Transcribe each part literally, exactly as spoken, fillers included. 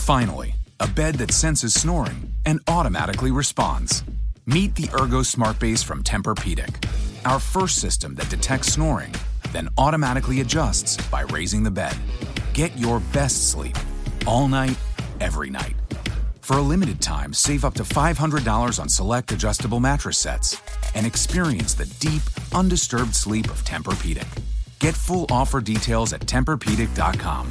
Finally, a bed that senses snoring and automatically responds. Meet the Ergo Smart Base from Tempur-Pedic, our first system that detects snoring, then automatically adjusts by raising the bed. Get your best sleep all night, every night. For a limited time, save up to five hundred dollars on select adjustable mattress sets and experience the deep, undisturbed sleep of Tempur-Pedic. Get full offer details at Tempur Pedic dot com.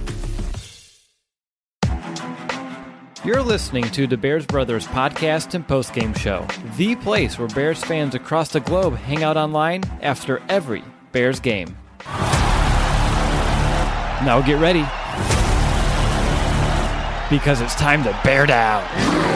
You're listening to the Bears Brothers podcast and postgame show, the place where Bears fans across the globe hang out online after every Bears game. Now get ready, because it's time to bear down.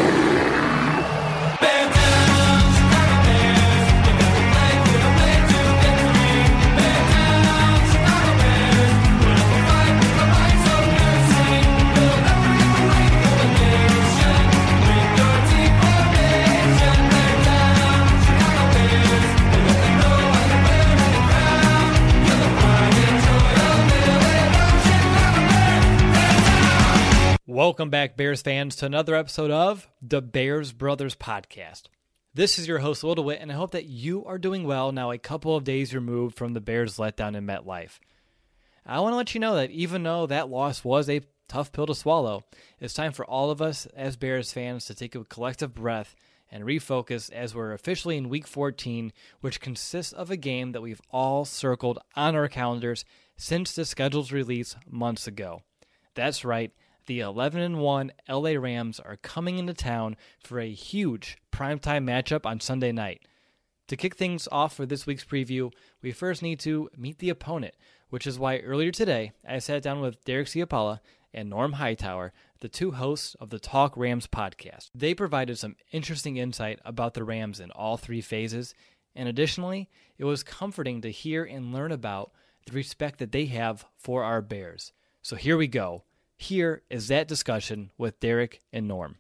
Welcome back, Bears fans, to another episode of the Bears Brothers podcast. This is your host, Will DeWitt, and I hope that you are doing well now a couple of days removed from the Bears' letdown in MetLife. I want to let you know that even though that loss was a tough pill to swallow, it's time for all of us as Bears fans to take a collective breath and refocus as we're officially in Week fourteen, which consists of a game that we've all circled on our calendars since the schedule's release months ago. That's right. The eleven and one L A Rams are coming into town for a huge primetime matchup on Sunday night. To kick things off for this week's preview, we first need to meet the opponent, which is why earlier today I sat down with Derek Ciapala and Norm Hightower, the two hosts of the Talk Rams podcast. They provided some interesting insight about the Rams in all three phases, and additionally, it was comforting to hear and learn about the respect that they have for our Bears. So here we go. Here is that discussion with Derek and Norm.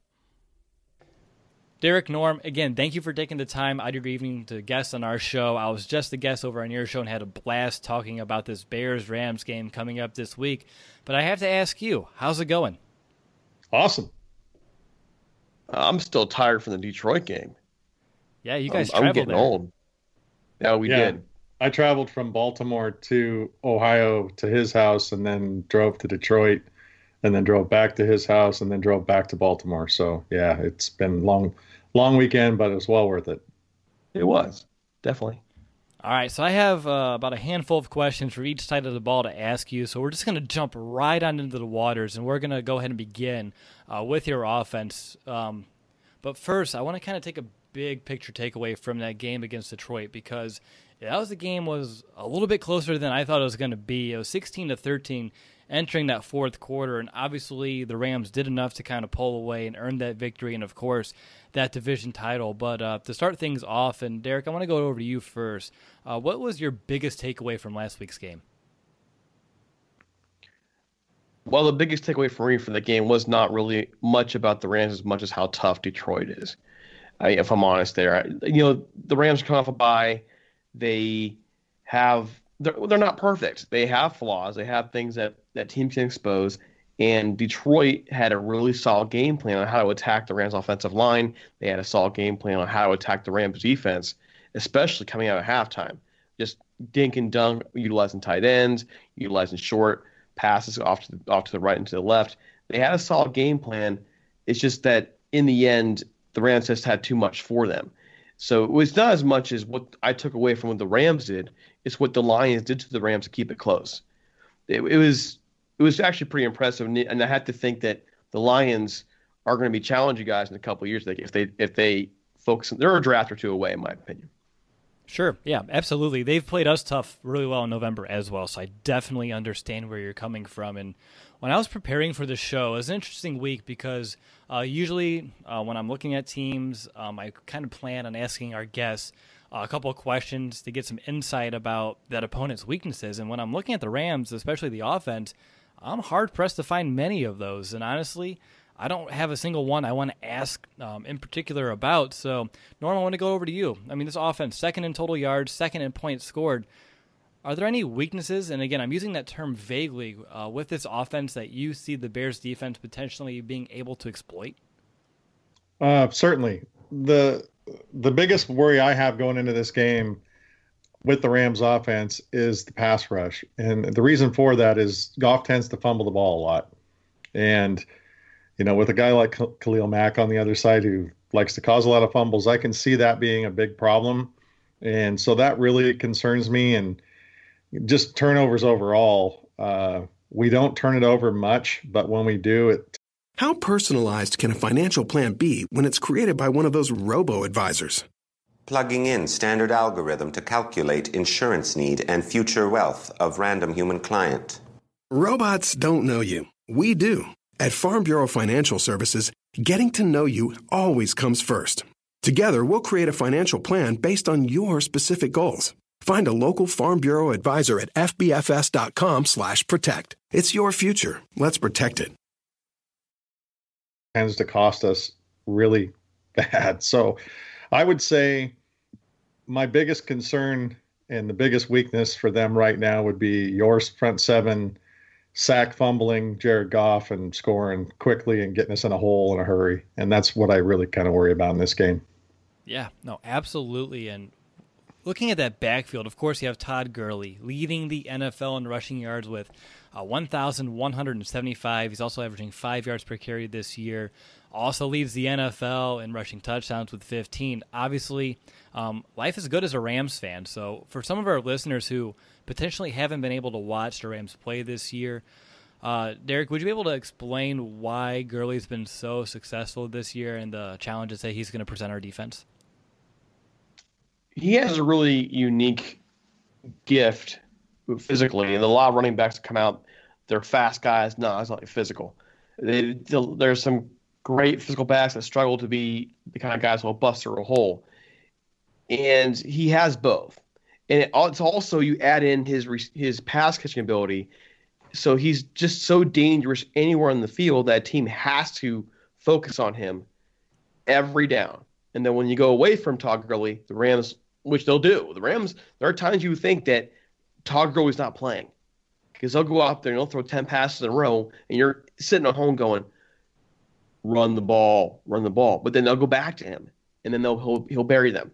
Derek, Norm, again, thank you for taking the time out of your evening to guest on our show. I was just a guest over on your show and had a blast talking about this Bears-Rams game coming up this week. But I have to ask you, how's it going? Awesome. I'm still tired from the Detroit game. Yeah, you guys I'm, traveled I'm getting there. old. Yeah, we yeah. did. I traveled from Baltimore to Ohio to his house and then drove to Detroit and then drove back to his house and then drove back to Baltimore. So, yeah, it's been long, long weekend, but it was well worth it. It was, definitely. All right, so I have uh, about a handful of questions for each side of the ball to ask you. So we're just going to jump right on into the waters, and we're going to go ahead and begin uh, with your offense. Um, but first, I want to kind of take a big picture takeaway from that game against Detroit, because that was the game was a little bit closer than I thought it was going to be. It was sixteen to thirteen entering that fourth quarter, and obviously the Rams did enough to kind of pull away and earn that victory and, of course, that division title. But uh, to start things off, and Derek, I want to go over to you first. Uh, what was your biggest takeaway from last week's game? Well, the biggest takeaway for me from the game was not really much about the Rams as much as how tough Detroit is. I, if I'm honest there, I, you know, the Rams come off a bye. They have they're, they're not perfect. They have flaws. They have things that, that teams can expose. And Detroit had a really solid game plan on how to attack the Rams' offensive line. They had a solid game plan on how to attack the Rams' defense, especially coming out of halftime. Just dink and dunk, utilizing tight ends, utilizing short passes off to the, off to the right and to the left. They had a solid game plan. It's just that in the end, the Rams just had too much for them. So it was not as much as what I took away from what the Rams did. It's what the Lions did to the Rams to keep it close. It, it was it was actually pretty impressive, and, and I had to think that the Lions are going to be challenging guys in a couple of years if they if they focus. They're a draft or two away, in my opinion. Sure, yeah, absolutely. They've played us tough really well in November as well, so I definitely understand where you're coming from. And when I was preparing for the show, it was an interesting week because uh, usually uh, when I'm looking at teams, um, I kind of plan on asking our guests uh, a couple of questions to get some insight about that opponent's weaknesses. And when I'm looking at the Rams, especially the offense, I'm hard-pressed to find many of those. And honestly, I don't have a single one I want to ask um, in particular about. So, Norm, I want to go over to you. I mean, this offense, second in total yards, second in points scored. Are there any weaknesses, and again, I'm using that term vaguely, uh, with this offense that you see the Bears defense potentially being able to exploit? Uh, certainly. The the biggest worry I have going into this game with the Rams offense is the pass rush. And the reason for that is Goff tends to fumble the ball a lot. And, you know, with a guy like Khalil Mack on the other side who likes to cause a lot of fumbles, I can see that being a big problem. And so that really concerns me. And just turnovers overall, uh, we don't turn it over much, but when we do, it. How personalized can a financial plan be when it's created by one of those robo-advisors? Plugging in standard algorithm to calculate insurance need and future wealth of random human client. Robots don't know you. We do. At Farm Bureau Financial Services, getting to know you always comes first. Together, we'll create a financial plan based on your specific goals. Find a local Farm Bureau advisor at fbfs.com slash protect. It's your future. Let's protect it. Tends to cost us really bad. So I would say my biggest concern and the biggest weakness for them right now would be your front seven, sack fumbling Jared Goff and scoring quickly and getting us in a hole in a hurry. And that's what I really kind of worry about in this game. Yeah, no, absolutely. And looking at that backfield, of course, you have Todd Gurley leading the N F L in rushing yards with uh, one thousand one hundred seventy-five. He's also averaging five yards per carry this year. Also leads the N F L in rushing touchdowns with fifteen. Obviously, um, life is good as a Rams fan. So for some of our listeners who potentially haven't been able to watch the Rams play this year, uh, Derek, would you be able to explain why Gurley's been so successful this year and the challenges that he's going to present our defense? He has a really unique gift physically, and a lot of running backs come out, they're fast guys. No, it's not physical. They, there's some great physical backs that struggle to be the kind of guys who will bust through a hole, and he has both. And it, it's also, you add in his his pass catching ability, so he's just so dangerous anywhere on the field that a team has to focus on him every down. And then when you go away from Todd Gurley, the Rams, which they'll do, the Rams, there are times you think that Todd Gurley's not playing because they'll go out there and they'll throw ten passes in a row, and you're sitting at home going, run the ball, run the ball. But then they'll go back to him, and then they'll he'll, he'll bury them.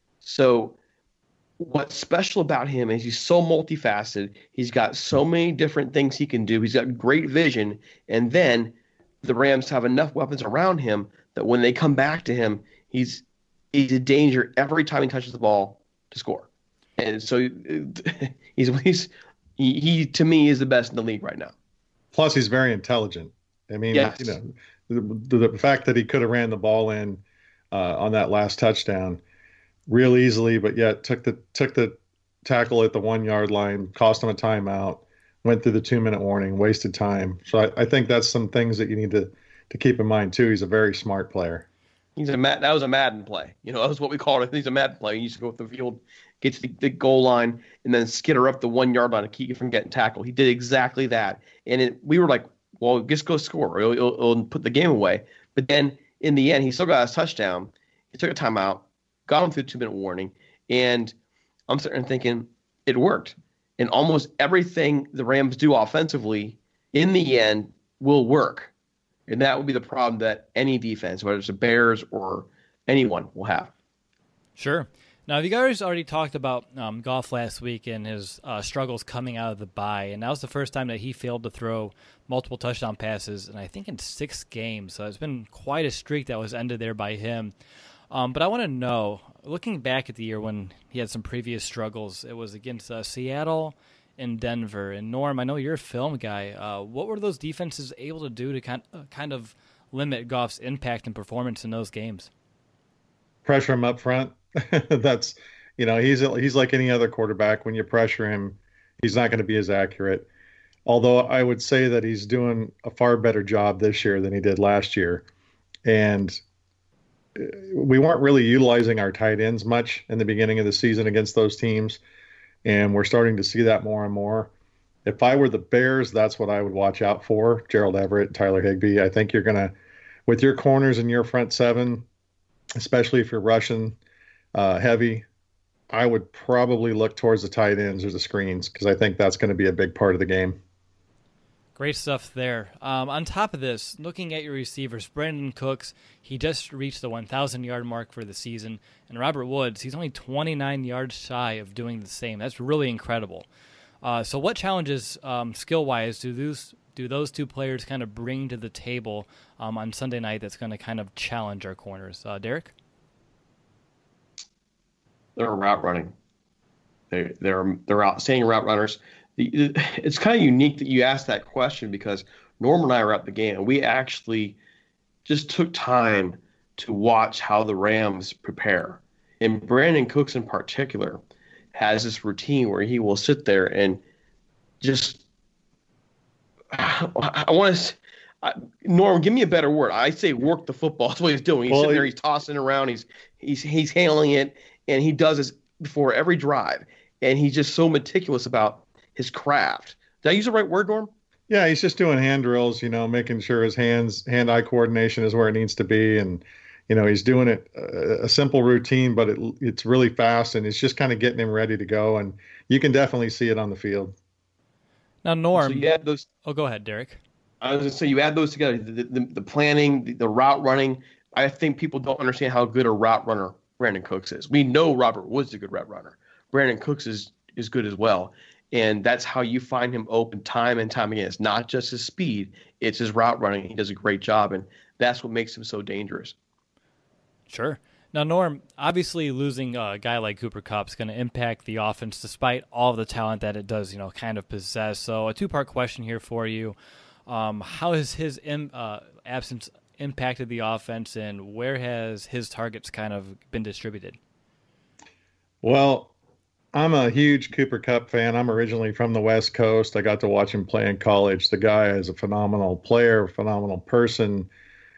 So what's special about him is he's so multifaceted. He's got so many different things he can do. He's got great vision, and then the Rams have enough weapons around him that when they come back to him, he's he's a danger every time he touches the ball to score. And so he's he's he, he to me is the best in the league right now. Plus, he's very intelligent. I mean, yes. you know, the, the fact that he could have ran the ball in uh, on that last touchdown real easily, but yet took the took the tackle at the one yard line, cost him a timeout, went through the two minute warning, wasted time. So I, I think that's some things that you need to to keep in mind too. He's a very smart player. He's a that was a Madden play. You know, that was what we called it. He's a Madden play. He used to go up the field, get to the, the goal line, and then skitter up the one yard line to keep you from getting tackled. He did exactly that, and it, we were like, "Well, just go score. It'll, it'll, it'll put the game away." But then in the end, he still got his touchdown. He took a timeout, got him through the two minute warning, and I'm sitting there thinking it worked. And almost everything the Rams do offensively, in the end, will work. And that would be the problem that any defense, whether it's the Bears or anyone, will have. Sure. Now, you guys already talked about um, Goff last week and his uh, struggles coming out of the bye, and that was the first time that he failed to throw multiple touchdown passes, and I think in six games. So it's been quite a streak that was ended there by him. Um, but I want to know, looking back at the year when he had some previous struggles, it was against uh, Seattle and Denver. And Norm, I know you're a film guy. Uh, what were those defenses able to do to kind uh, kind of limit Goff's impact and performance in those games? Pressure him up front. That's, you know, he's he's like any other quarterback. When you pressure him, he's not going to be as accurate. Although I would say that he's doing a far better job this year than he did last year. And we weren't really utilizing our tight ends much in the beginning of the season against those teams. And we're starting to see that more and more. If I were the Bears, that's what I would watch out for. Gerald Everett, Tyler Higbee. I think you're going to, with your corners and your front seven, especially if you're rushing uh, heavy, I would probably look towards the tight ends or the screens because I think that's going to be a big part of the game. Great stuff there. Um, on top of this, looking at your receivers, Brandon Cooks, he just reached the one thousand yard mark for the season. And Robert Woods, he's only twenty-nine yards shy of doing the same. That's really incredible. Uh, so what challenges, um, skill-wise, do those, do those two players kind of bring to the table um, on Sunday night that's going to kind of challenge our corners? Uh, Derek? They're route running. They, they're they're outstanding route runners. It's kind of unique that you asked that question because Norm and I were at the game, and we actually just took time to watch how the Rams prepare. And Brandon Cooks in particular has this routine where he will sit there and just I, I want to Norm, give me a better word. I say work the football. That's what he's doing. He's well, sitting there, he's tossing around, he's he's he's handling it, and he does this before every drive. And he's just so meticulous about his craft. Did I use the right word, Norm? Yeah, he's just doing hand drills, you know, making sure his hands, hand-eye coordination is where it needs to be. And, you know, he's doing it uh, a simple routine, but it, it's really fast, and it's just kind of getting him ready to go. And you can definitely see it on the field. Now, Norm. So you add those, oh, go ahead, Derek. I was going to say, you add those together, the, the, the planning, the, the route running. I think people don't understand how good a route runner Brandon Cooks is. We know Robert Woods is a good route runner. Brandon Cooks is, is good as well. And that's how you find him open time and time again. It's not just his speed, it's his route running. He does a great job, and that's what makes him so dangerous. Sure. Now, Norm, obviously losing a guy like Cooper Kupp is going to impact the offense despite all of the talent that it does, you know, kind of possess. So a two-part question here for you. Um, how has his im- uh, absence impacted the offense, and where has his targets kind of been distributed? Well, I'm a huge Cooper Kupp fan. I'm originally from the West Coast. I got to watch him play in college. The guy is a phenomenal player, phenomenal person.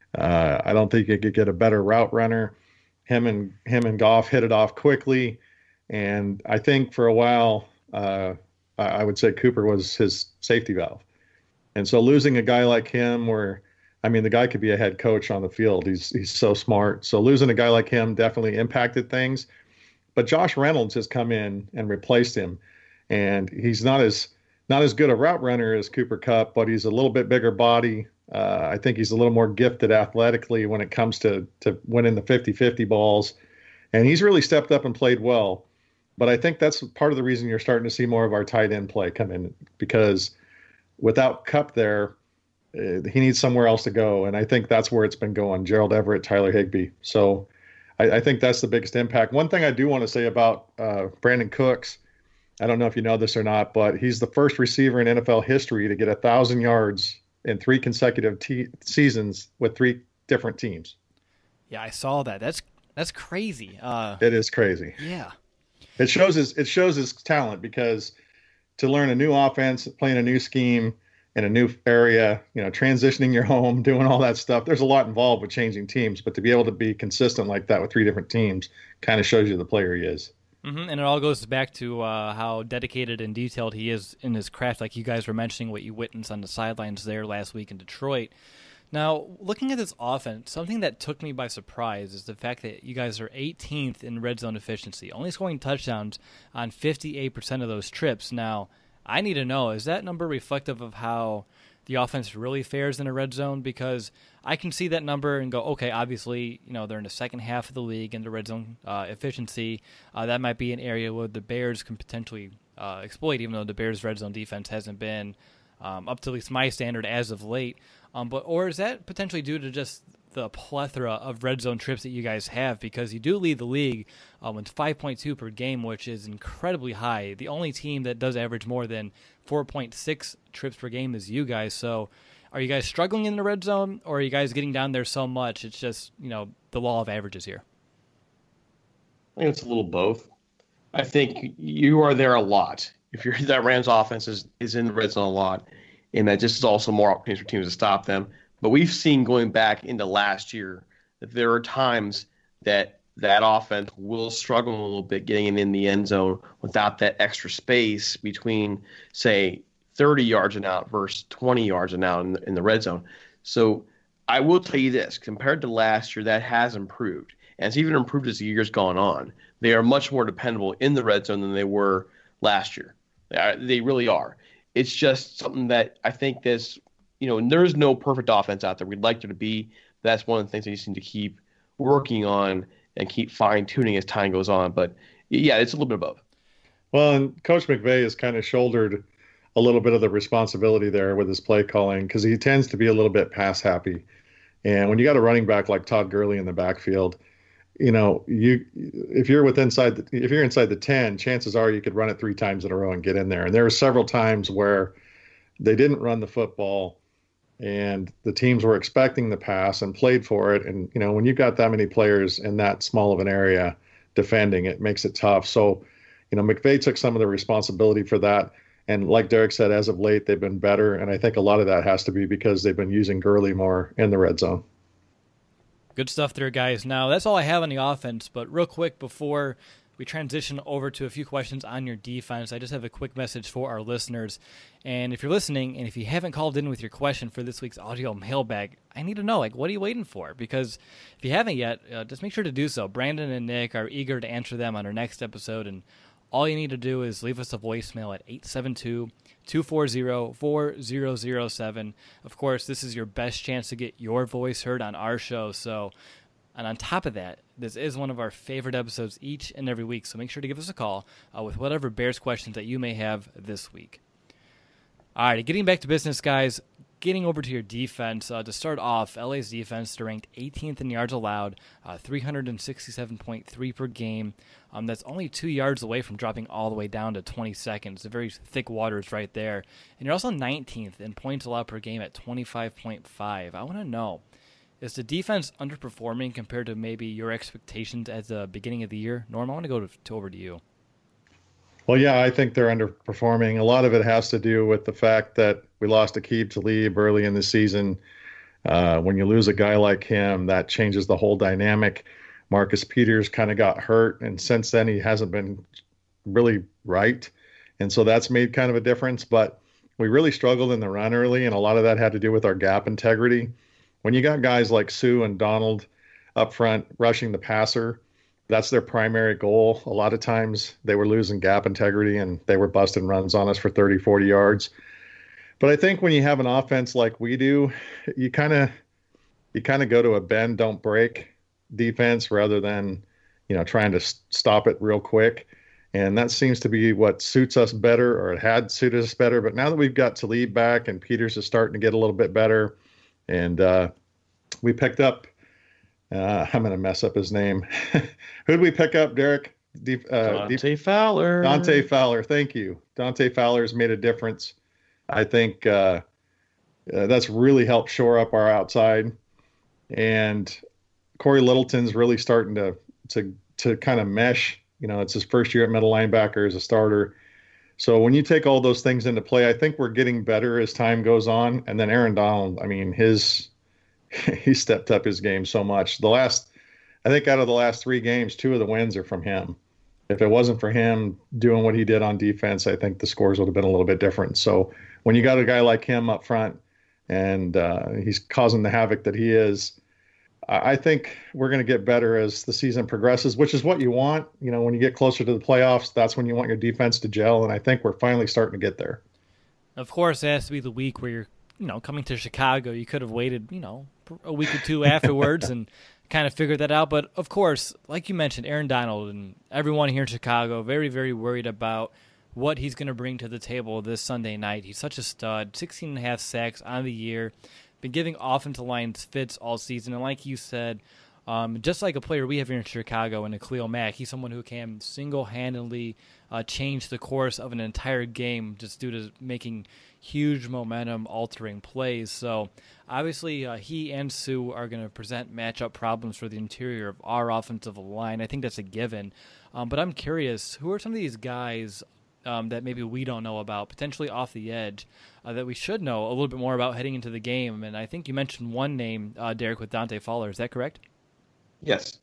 Uh, I don't think you could get a better route runner. Him and him and Goff hit it off quickly, and I think for a while, uh, I, I would say Cooper was his safety valve. And so losing a guy like him, where I mean, the guy could be a head coach on the field. He's he's so smart. So losing a guy like him definitely impacted things. But Josh Reynolds has come in and replaced him, and he's not as not as good a route runner as Cooper Kupp, but he's a little bit bigger body. Uh, I think he's a little more gifted athletically when it comes to to winning the fifty-fifty balls, and he's really stepped up and played well. But I think that's part of the reason you're starting to see more of our tight end play come in, because without Kupp there, uh, he needs somewhere else to go, and I think that's where it's been going. Gerald Everett, Tyler Higbee. So I, I think that's the biggest impact. One thing I do want to say about uh, Brandon Cooks, I don't know if you know this or not, but he's the first receiver in N F L history to get a thousand yards in three consecutive te- seasons with three different teams. Yeah, I saw that. That's that's crazy. Uh, it is crazy. Yeah, it shows his it shows his talent, because to learn a new offense, playing a new scheme in a new area, you know, transitioning your home, doing all that stuff, there's a lot involved with changing teams. But to be able to be consistent like that with three different teams kind of shows you the player he is. Mm-hmm. And it all goes back to uh, how dedicated and detailed he is in his craft, like you guys were mentioning what you witnessed on the sidelines there last week in Detroit. Now, looking at this offense, something that took me by surprise is the fact that you guys are eighteenth in red zone efficiency, only scoring touchdowns on fifty-eight percent of those trips. Now, I need to know, is that number reflective of how the offense really fares in a red zone? Because I can see that number and go, okay, obviously, you know, they're in the second half of the league in the red zone uh, efficiency. Uh, that might be an area where the Bears can potentially uh, exploit, even though the Bears' red zone defense hasn't been um, up to at least my standard as of late. Um, but or is that potentially due to just the plethora of red zone trips that you guys have? Because you do lead the league um, with five point two per game, which is incredibly high. The only team that does average more than four point six trips per game is you guys. So are you guys struggling in the red zone, or are you guys getting down there so much it's just, you know, the law of averages here? I think it's a little both. I think you are there a lot. If you're that Rams offense is, is in the red zone a lot, and that just is also more opportunities for teams to stop them. But we've seen going back into last year that there are times that that offense will struggle a little bit getting in the end zone without that extra space between, say, thirty yards and out versus twenty yards and out in the, in the red zone. So I will tell you this, compared to last year, that has improved. And it's even improved as the year's gone on. They are much more dependable in the red zone than they were last year. They, are, they really are. It's just something that I think this, you know, there's no perfect offense out there. We'd like there to be. That's one of the things that you just need to keep working on and keep fine-tuning as time goes on. But, yeah, it's a little bit above. Well, and Coach McVay has kind of shouldered a little bit of the responsibility there with his play calling because he tends to be a little bit pass happy. And when you got a running back like Todd Gurley in the backfield, you know, you if you're with inside the, if you're inside the ten, chances are you could run it three times in a row and get in there. And there were several times where they didn't run the football and the teams were expecting the pass and played for it. And, you know, when you've got that many players in that small of an area defending, it makes it tough. So, you know, McVay took some of the responsibility for that. And like Derek said, as of late, they've been better. And I think a lot of that has to be because they've been using Gurley more in the red zone. Good stuff there, guys. Now, that's all I have on the offense. But real quick, before we transition over to a few questions on your defense, I just have a quick message for our listeners. And if you're listening, and if you haven't called in with your question for this week's audio mailbag, I need to know, like, what are you waiting for? Because if you haven't yet, uh, just make sure to do so. Brandon and Nick are eager to answer them on our next episode, and all you need to do is leave us a voicemail at eight seven two, two four zero, four zero zero seven. Of course, this is your best chance to get your voice heard on our show. So, and on top of that, this is one of our favorite episodes each and every week. So make sure to give us a call uh, with whatever Bears questions that you may have this week. All right, getting back to business, guys. Getting over to your defense, uh, to start off, L A's defense, they're ranked eighteenth in yards allowed, uh, three sixty-seven point three per game. Um, that's only two yards away from dropping all the way down to twenty-second. It's a very thick waters right there. And you're also nineteenth in points allowed per game at twenty-five point five. I want to know, is the defense underperforming compared to maybe your expectations at the beginning of the year? Norm, I want to go to, to over to you. Well, yeah, I think they're underperforming. A lot of it has to do with the fact that we lost Aqib Talib early in the season. Uh, when you lose a guy like him, that changes the whole dynamic. Marcus Peters kind of got hurt, and since then he hasn't been really right. And so that's made kind of a difference. But we really struggled in the run early, and a lot of that had to do with our gap integrity. When you got guys like Sue and Donald up front rushing the passer, that's their primary goal. A lot of times they were losing gap integrity and they were busting runs on us for thirty, forty yards. But I think when you have an offense like we do, you kind of you kind of go to a bend, don't break defense rather than, you know, trying to stop it real quick. And that seems to be what suits us better, or it had suited us better. But now that we've got Talib back and Peters is starting to get a little bit better, and uh, we picked up, Uh, I'm going to mess up his name. Who did we pick up, Derek? Deep, uh, Dante Deep, Fowler. Dante Fowler. Thank you. Dante Fowler's made a difference. I think uh, uh, that's really helped shore up our outside. And Corey Littleton's really starting to to to kind of mesh. You know, it's his first year at middle linebacker as a starter. So when you take all those things into play, I think we're getting better as time goes on. And then Aaron Donald, I mean, his he stepped up his game so much. The last, I think out of the last three games, two of the wins are from him. If it wasn't for him doing what he did on defense, I think the scores would have been a little bit different. So when you got a guy like him up front and uh, he's causing the havoc that he is, I think we're going to get better as the season progresses, which is what you want. You know, when you get closer to the playoffs, that's when you want your defense to gel. And I think we're finally starting to get there. Of course, it has to be the week where you're, you know, coming to Chicago. You could have waited, you know, a week or two afterwards and kind of figured that out. But, of course, like you mentioned, Aaron Donald and everyone here in Chicago, very, very worried about what he's going to bring to the table this Sunday night. He's such a stud, sixteen and a half sacks on the year, been giving offensive lines fits all season. And like you said, um, just like a player we have here in Chicago and Khalil Mack, he's someone who can single-handedly uh, change the course of an entire game just due to making huge momentum-altering plays. So obviously uh, he and Sue are going to present matchup problems for the interior of our offensive line. I think that's a given. Um, but I'm curious, who are some of these guys um, that maybe we don't know about, potentially off the edge, uh, that we should know a little bit more about heading into the game? And I think you mentioned one name, uh, Derek, with Dante Fowler. Is that correct? Yes.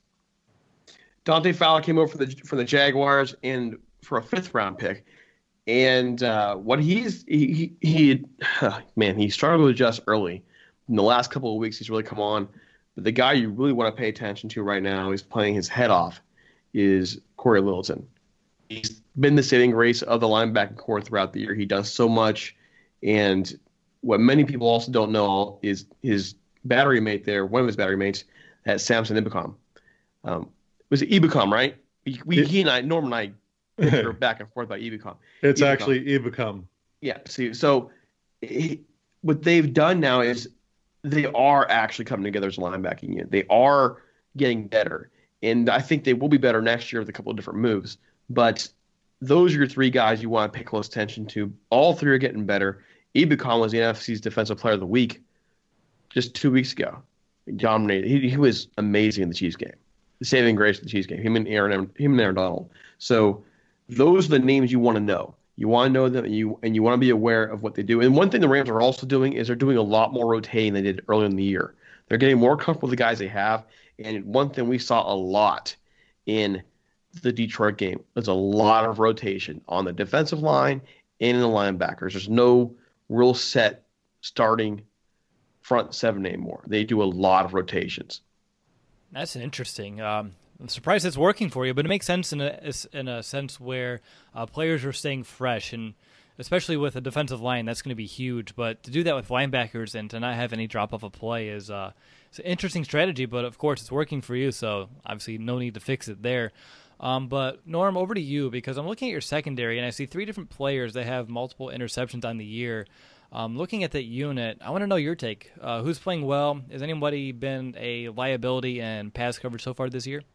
Dante Fowler came over for the for the Jaguars and for a fifth round pick. And uh, what he's he, he he man, he struggled to adjust early. In the last couple of weeks, he's really come on. But the guy you really want to pay attention to right now is playing his head off is Corey Littleton. He's been the saving grace of the linebacking core throughout the year. He does so much. And what many people also don't know is his battery mate there, one of his battery mates, at Samson Ibukam. Um, was it Ibukam, right? We, we it, he and I, Norm and I, were back and forth about Ibukam. It's Ibukam. actually Ibukam. Yeah. See, so he, what they've done now is they are actually coming together as a linebacking unit. They are getting better, and I think they will be better next year with a couple of different moves. But those are your three guys you want to pay close attention to. All three are getting better. Ibukam was the N F C's Defensive Player of the Week just two weeks ago. He dominated. He, he was amazing in the Chiefs game. The saving grace of the Chiefs game. Him and Aaron, him and Aaron Donald. So those are the names you want to know. You want to know them, and you and you want to be aware of what they do. And one thing the Rams are also doing is they're doing a lot more rotating than they did earlier in the year. They're getting more comfortable with the guys they have. And one thing we saw a lot in the Detroit game was a lot of rotation on the defensive line and in the linebackers. There's no real set starting front seven anymore. They do a lot of rotations. That's interesting. Um, I'm surprised it's working for you, but it makes sense in a in a sense where uh, players are staying fresh, and especially with a defensive line, that's going to be huge. But to do that with linebackers and to not have any drop off a play is uh, it's an interesting strategy. But of course, it's working for you, so obviously no need to fix it there. Um, but Norm, over to you, because I'm looking at your secondary and I see three different players that have multiple interceptions on the year. Um, looking at that unit, I want to know your take. Uh, who's playing well? Has anybody been a liability in pass coverage so far this year?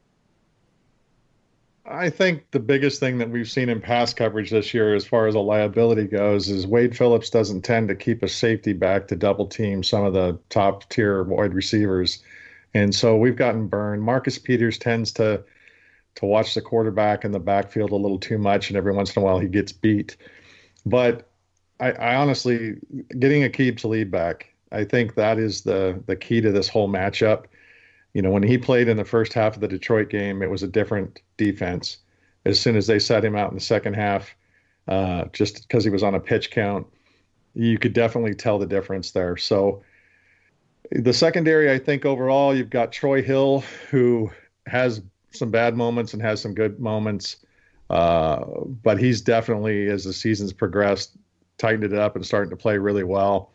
I think the biggest thing that we've seen in pass coverage this year as far as a liability goes is Wade Phillips doesn't tend to keep a safety back to double team some of the top tier wide receivers. And so we've gotten burned. Marcus Peters tends to to watch the quarterback in the backfield a little too much, and every once in a while he gets beat. But I, I honestly, getting Aqib Talib back, I think that is the the key to this whole matchup. You know, when he played in the first half of the Detroit game, it was a different defense. As soon as they set him out in the second half, uh, just because he was on a pitch count, you could definitely tell the difference there. So the secondary, I think overall, you've got Troy Hill, who has some bad moments and has some good moments. Uh, but he's definitely, as the season's progressed, tightened it up and starting to play really well.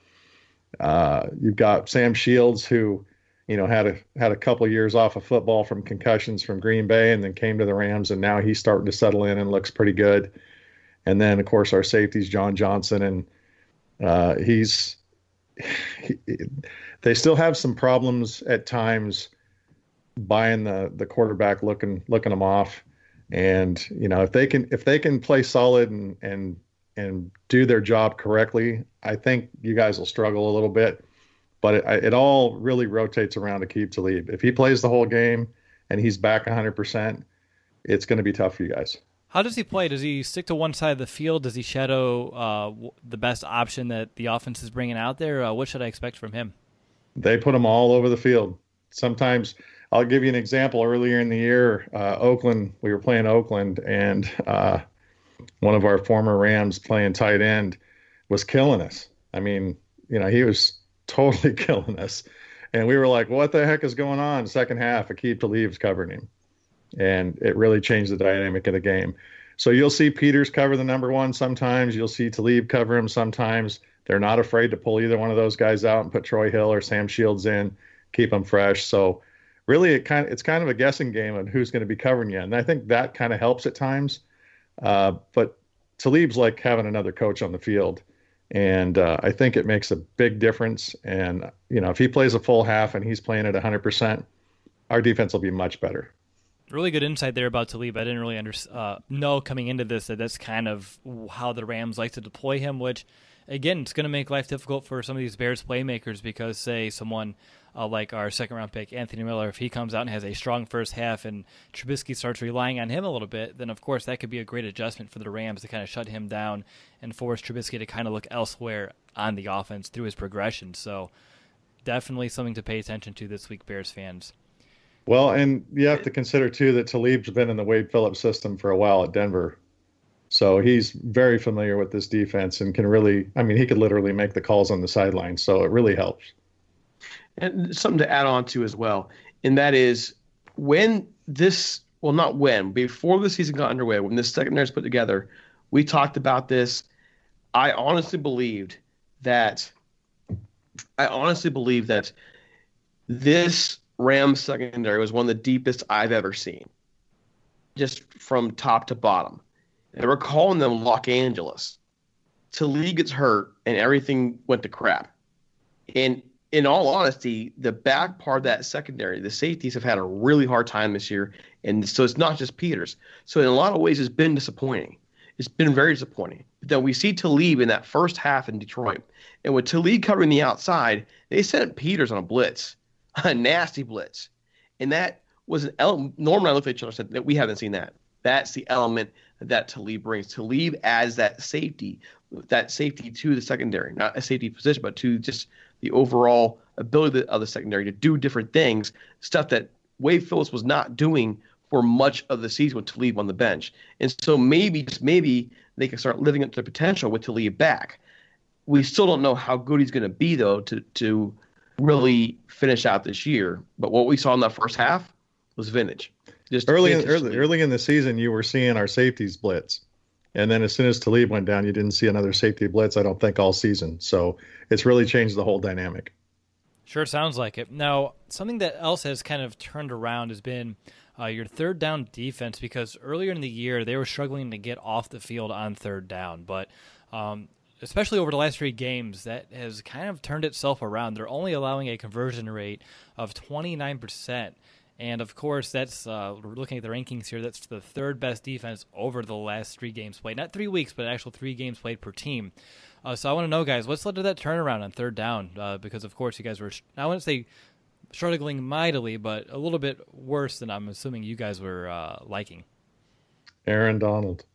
Uh, you've got Sam Shields, who, you know, had a had a couple of years off of football from concussions from Green Bay, and then came to the Rams, and now he's starting to settle in and looks pretty good. And then, of course, our safeties, John Johnson, and uh, he's he, they still have some problems at times buying the the quarterback, looking looking them off. And you know, if they can if they can play solid and and and do their job correctly, I think you guys will struggle a little bit. But it, it all really rotates around Aqib Talib. If he plays the whole game and he's back one hundred percent, it's going to be tough for you guys. How does he play? Does he stick to one side of the field? Does he shadow uh, the best option that the offense is bringing out there? Uh, what should I expect from him? They put him all over the field. Sometimes, I'll give you an example. Earlier in the year, uh, Oakland, we were playing Oakland, and uh, one of our former Rams playing tight end was killing us. I mean, you know, he was totally killing us. And we were like, what the heck is going on? Second half, Aqib Talib's covering him. And it really changed the dynamic of the game. So you'll see Peters cover the number one sometimes. You'll see Talib cover him sometimes. They're not afraid to pull either one of those guys out and put Troy Hill or Sam Shields in, keep them fresh. So really, it kind of, it's kind of a guessing game on who's going to be covering you. And I think that kind of helps at times. Uh, but Talib's like having another coach on the field. And uh, I think it makes a big difference. And, you know, if he plays a full half and he's playing at one hundred percent, our defense will be much better. Really good insight there about Talib. I didn't really under, uh, know coming into this that that's kind of how the Rams like to deploy him, which, again, it's going to make life difficult for some of these Bears playmakers because, say, someone uh, like our second-round pick, Anthony Miller, if he comes out and has a strong first half and Trubisky starts relying on him a little bit, then, of course, that could be a great adjustment for the Rams to kind of shut him down and force Trubisky to kind of look elsewhere on the offense through his progression. So definitely something to pay attention to this week, Bears fans. Well, and you have to consider, too, that Talib's been in the Wade Phillips system for a while at Denver. So he's very familiar with this defense and can really, I mean, he could literally make the calls on the sideline. So it really helps. And something to add on to as well, and that is when this well, not when, before the season got underway, when this secondary was put together, we talked about this. I honestly believed that I honestly believed that this Rams secondary was one of the deepest I've ever seen, just from top to bottom. They were calling them Los Angeles. Talib gets hurt, and everything went to crap. And in all honesty, the back part of that secondary, the safeties have had a really hard time this year, and so it's not just Peters. So in a lot of ways, it's been disappointing. It's been very disappointing. But then we see Talib in that first half in Detroit, and with Talib covering the outside, they sent Peters on a blitz, a nasty blitz, and that was an element. Norman and I looked at each other and said that we haven't seen that. That's the element that Talib brings. Talib as that safety, that safety to the secondary, not a safety position, but to just the overall ability of the secondary to do different things, stuff that Wade Phillips was not doing for much of the season with Talib on the bench. And so maybe, just maybe, they can start living up to their potential with Talib back. We still don't know how good he's going to be, though, to to really finish out this year. But what we saw in that first half was vintage. Just early, vintage in, early, early in the season, you were seeing our safeties blitz. And then as soon as Talib went down, you didn't see another safety blitz, I don't think, all season. So it's really changed the whole dynamic. Sure sounds like it. Now, something that else has kind of turned around has been uh, your third down defense, because earlier in the year they were struggling to get off the field on third down. But um, especially over the last three games, that has kind of turned itself around. They're only allowing a conversion rate of twenty-nine percent. And, of course, that's uh, we're looking at the rankings here. That's the third best defense over the last three games played. Not three weeks, but actual three games played per team. Uh, so I want to know, guys, what's led to that turnaround on third down? Uh, because, of course, you guys were, I wouldn't say struggling mightily, but a little bit worse than I'm assuming you guys were uh, liking. Aaron Donald.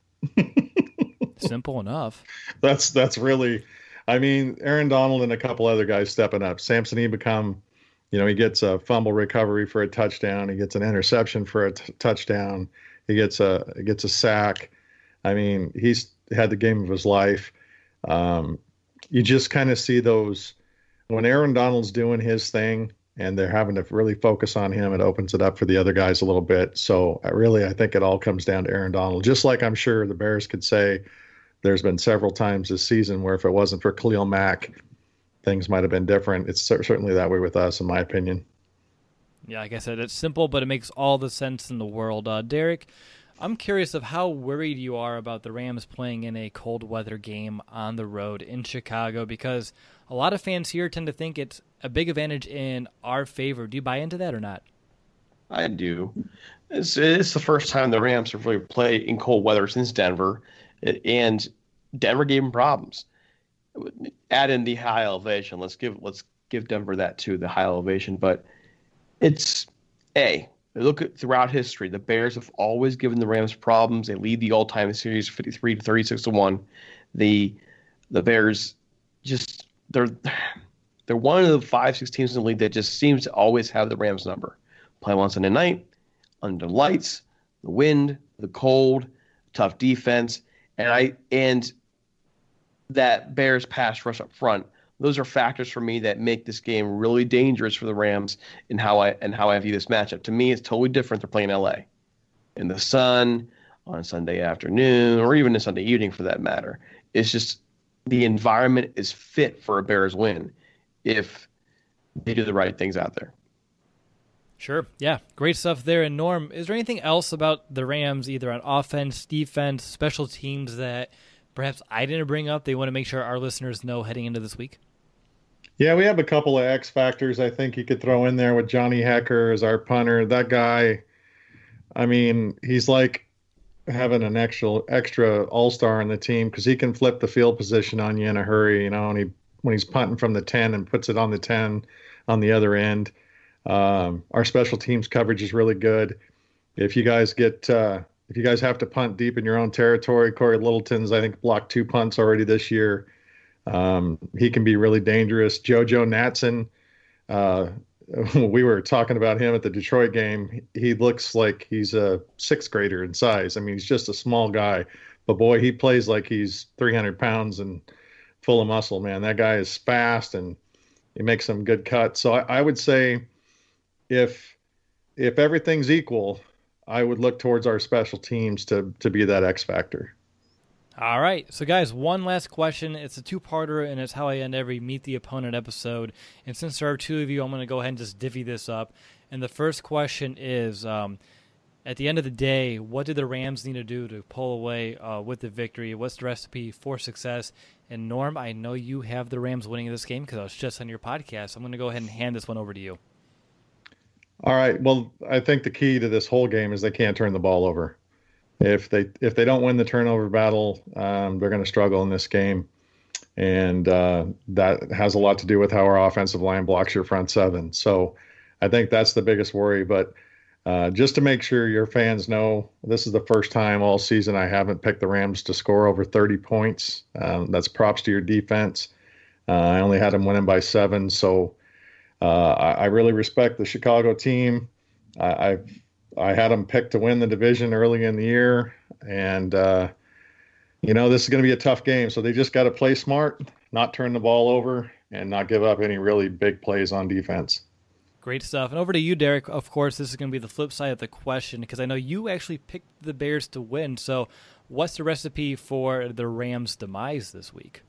Simple enough. That's that's really, I mean, Aaron Donald and a couple other guys stepping up. Samson Ebukam. You know, he gets a fumble recovery for a touchdown. He gets an interception for a t- touchdown. He gets a he gets a sack. I mean, he's had the game of his life. Um, you just kind of see those when Aaron Donald's doing his thing and they're having to really focus on him. It opens it up for the other guys a little bit. So I really, I think it all comes down to Aaron Donald. Just like I'm sure the Bears could say, there's been several times this season where if it wasn't for Khalil Mack, things might have been different. It's certainly that way with us, in my opinion. Yeah, like I said, it's simple, but it makes all the sense in the world. Uh, Derek, I'm curious of how worried you are about the Rams playing in a cold weather game on the road in Chicago, because a lot of fans here tend to think it's a big advantage in our favor. Do you buy into that or not? I do. It's, it's the first time the Rams have really played in cold weather since Denver, and Denver gave them problems. Add in the high elevation. Let's give let's give Denver that too, the high elevation. But it's a look at throughout history, the Bears have always given the Rams problems. They lead the all-time series fifty-three to thirty-six to one. The the Bears just they're they're one of the five six teams in the league that just seems to always have the Rams number. Play on Sunday night, under lights, the wind, the cold, tough defense, and I and. that Bears pass rush up front. Those are factors for me that make this game really dangerous for the Rams and how I and how I view this matchup. To me, it's totally different. They're playing L A in the sun on a Sunday afternoon or even a Sunday evening for that matter. It's just the environment is fit for a Bears win if they do the right things out there. Sure. Yeah. Great stuff there. And Norm, is there anything else about the Rams, either on offense, defense, special teams, that perhaps I didn't bring up they want to make sure our listeners know heading into this week? Yeah, we have a couple of X factors I think you could throw in there with Johnny Hekker as our punter. That guy, I mean, he's like having an extra extra all-star in the team because he can flip the field position on you in a hurry, you know, and he when he's punting from the ten and puts it on the ten on the other end. Um, our special teams coverage is really good. If you guys get uh, If you guys have to punt deep in your own territory, Corey Littleton's, I think, blocked two punts already this year. Um, he can be really dangerous. JoJo Natson, uh, we were talking about him at the Detroit game. He looks like he's a sixth grader in size. I mean, he's just a small guy. But, boy, he plays like he's three hundred pounds and full of muscle, man. That guy is fast, and he makes some good cuts. So I, I would say if if everything's equal – I would look towards our special teams to to be that X factor. All right. So, guys, one last question. It's a two-parter, and it's how I end every Meet the Opponent episode. And since there are two of you, I'm going to go ahead and just divvy this up. And the first question is, um, at the end of the day, what did the Rams need to do to pull away uh, with the victory? What's the recipe for success? And, Norm, I know you have the Rams winning this game because I was just on your podcast. I'm going to go ahead and hand this one over to you. All right. Well, I think the key to this whole game is they can't turn the ball over. If they if they don't win the turnover battle, um, they're going to struggle in this game, and uh, that has a lot to do with how our offensive line blocks your front seven. So I think that's the biggest worry. But uh, just to make sure your fans know, this is the first time all season I haven't picked the Rams to score over thirty points. Um, that's props to your defense. Uh, I only had them winning by seven, so uh, I, I really respect the Chicago team. I, I've I had them picked to win the division early in the year, and, uh, you know, this is going to be a tough game. So they just got to play smart, not turn the ball over, and not give up any really big plays on defense. Great stuff. And over to you, Derek. Of course, this is going to be the flip side of the question because I know you actually picked the Bears to win. So what's the recipe for the Rams' demise this week?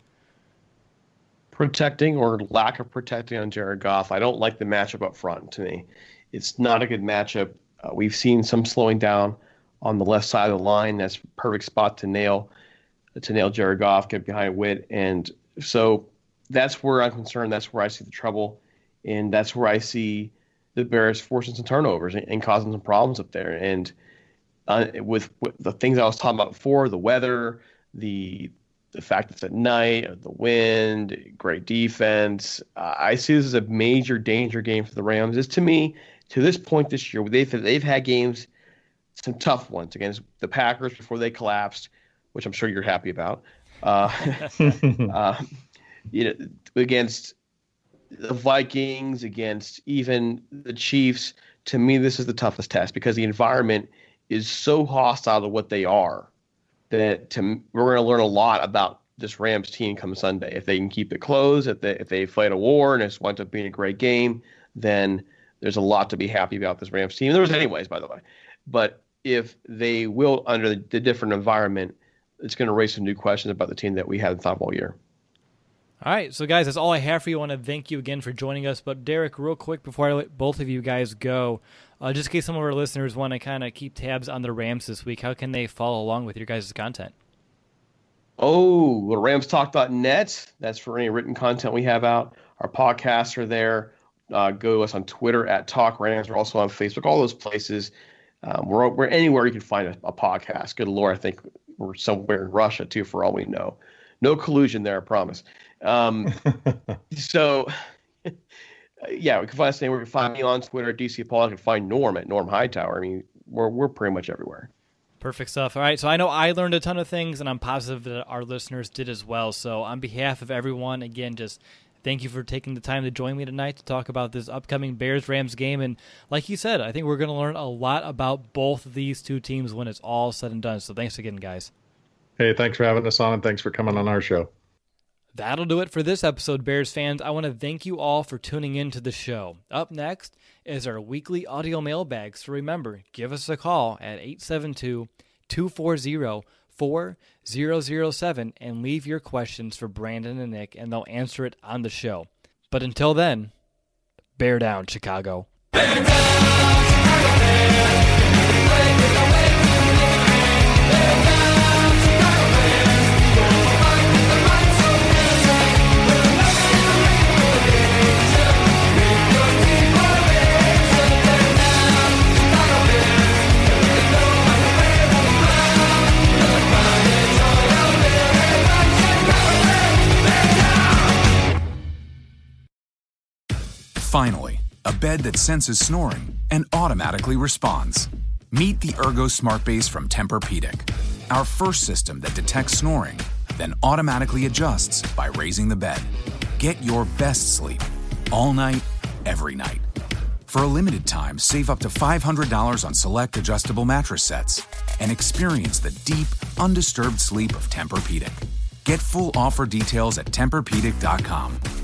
Protecting or lack of protecting on Jared Goff. I don't like the matchup up front to me. It's not a good matchup. Uh, we've seen some slowing down on the left side of the line. That's a perfect spot to nail to nail Jared Goff, get behind Witt. And so that's where I'm concerned. That's where I see the trouble. And that's where I see the Bears forcing some turnovers and, and causing some problems up there. And uh, with, with the things I was talking about before, the weather, the the fact it's at night, the wind, great defense, uh, I see this as a major danger game for the Rams. It's, to me, to this point this year, they've they've had games, some tough ones against the Packers before they collapsed, which I'm sure you're happy about. Uh, uh, you know, against the Vikings, against even the Chiefs. To me, this is the toughest test because the environment is so hostile to what they are that to, we're going to learn a lot about this Rams team come Sunday. If they can keep it close, if they if they fight a war and it's winds up being a great game, then there's a lot to be happy about this Rams team. There was anyways, by the way. But if they will, under the, the different environment, it's going to raise some new questions about the team that we hadn't thought of all year. All right, so guys, that's all I have for you. I want to thank you again for joining us. But Derek, real quick before I let both of you guys go, uh, just in case some of our listeners want to kind of keep tabs on the Rams this week, how can they follow along with your guys' content? Oh, well, rams talk dot net. That's for any written content we have out. Our podcasts are there. Uh, go to us on Twitter at Talk Rams. We're also on Facebook, all those places. Um, we're, we're anywhere you can find a, a podcast. Good Lord, I think we're somewhere in Russia, too, for all we know. No collusion there, I promise. Um, so, yeah, we can find us anywhere. You can find me on Twitter at D C Paul. You can find Norm at Norm Hightower. I mean, we're we're pretty much everywhere. Perfect stuff. All right, so I know I learned a ton of things, and I'm positive that our listeners did as well. So on behalf of everyone, again, just thank you for taking the time to join me tonight to talk about this upcoming Bears-Rams game. And like you said, I think we're going to learn a lot about both of these two teams when it's all said and done. So thanks again, guys. Hey, thanks for having us on, and thanks for coming on our show. That'll do it for this episode, Bears fans. I want to thank you all for tuning in to the show. Up next is our weekly audio mailbag. So remember, give us a call at eight seven two, two four zero, four zero zero seven and leave your questions for Brandon and Nick, and they'll answer it on the show. But until then, bear down, Chicago. Bear down, Chicago Bears. Wake with the wake with the wake. Bear down, Chicago Bears. We'll fight with the might so dancing. We'll never in the nation. Make your team for a nation. Bear down, Chicago Bears. They know how to wear the crown. We'll find and joy out there. Bear down, Chicago Bears. Bear down. Finally, a bed that senses snoring and automatically responds. Meet the Ergo Smart Base from Tempur-Pedic, our first system that detects snoring, then automatically adjusts by raising the bed. Get your best sleep all night, every night. For a limited time, save up to five hundred dollars on select adjustable mattress sets and experience the deep, undisturbed sleep of Tempur-Pedic. Get full offer details at Tempur Pedic dot com.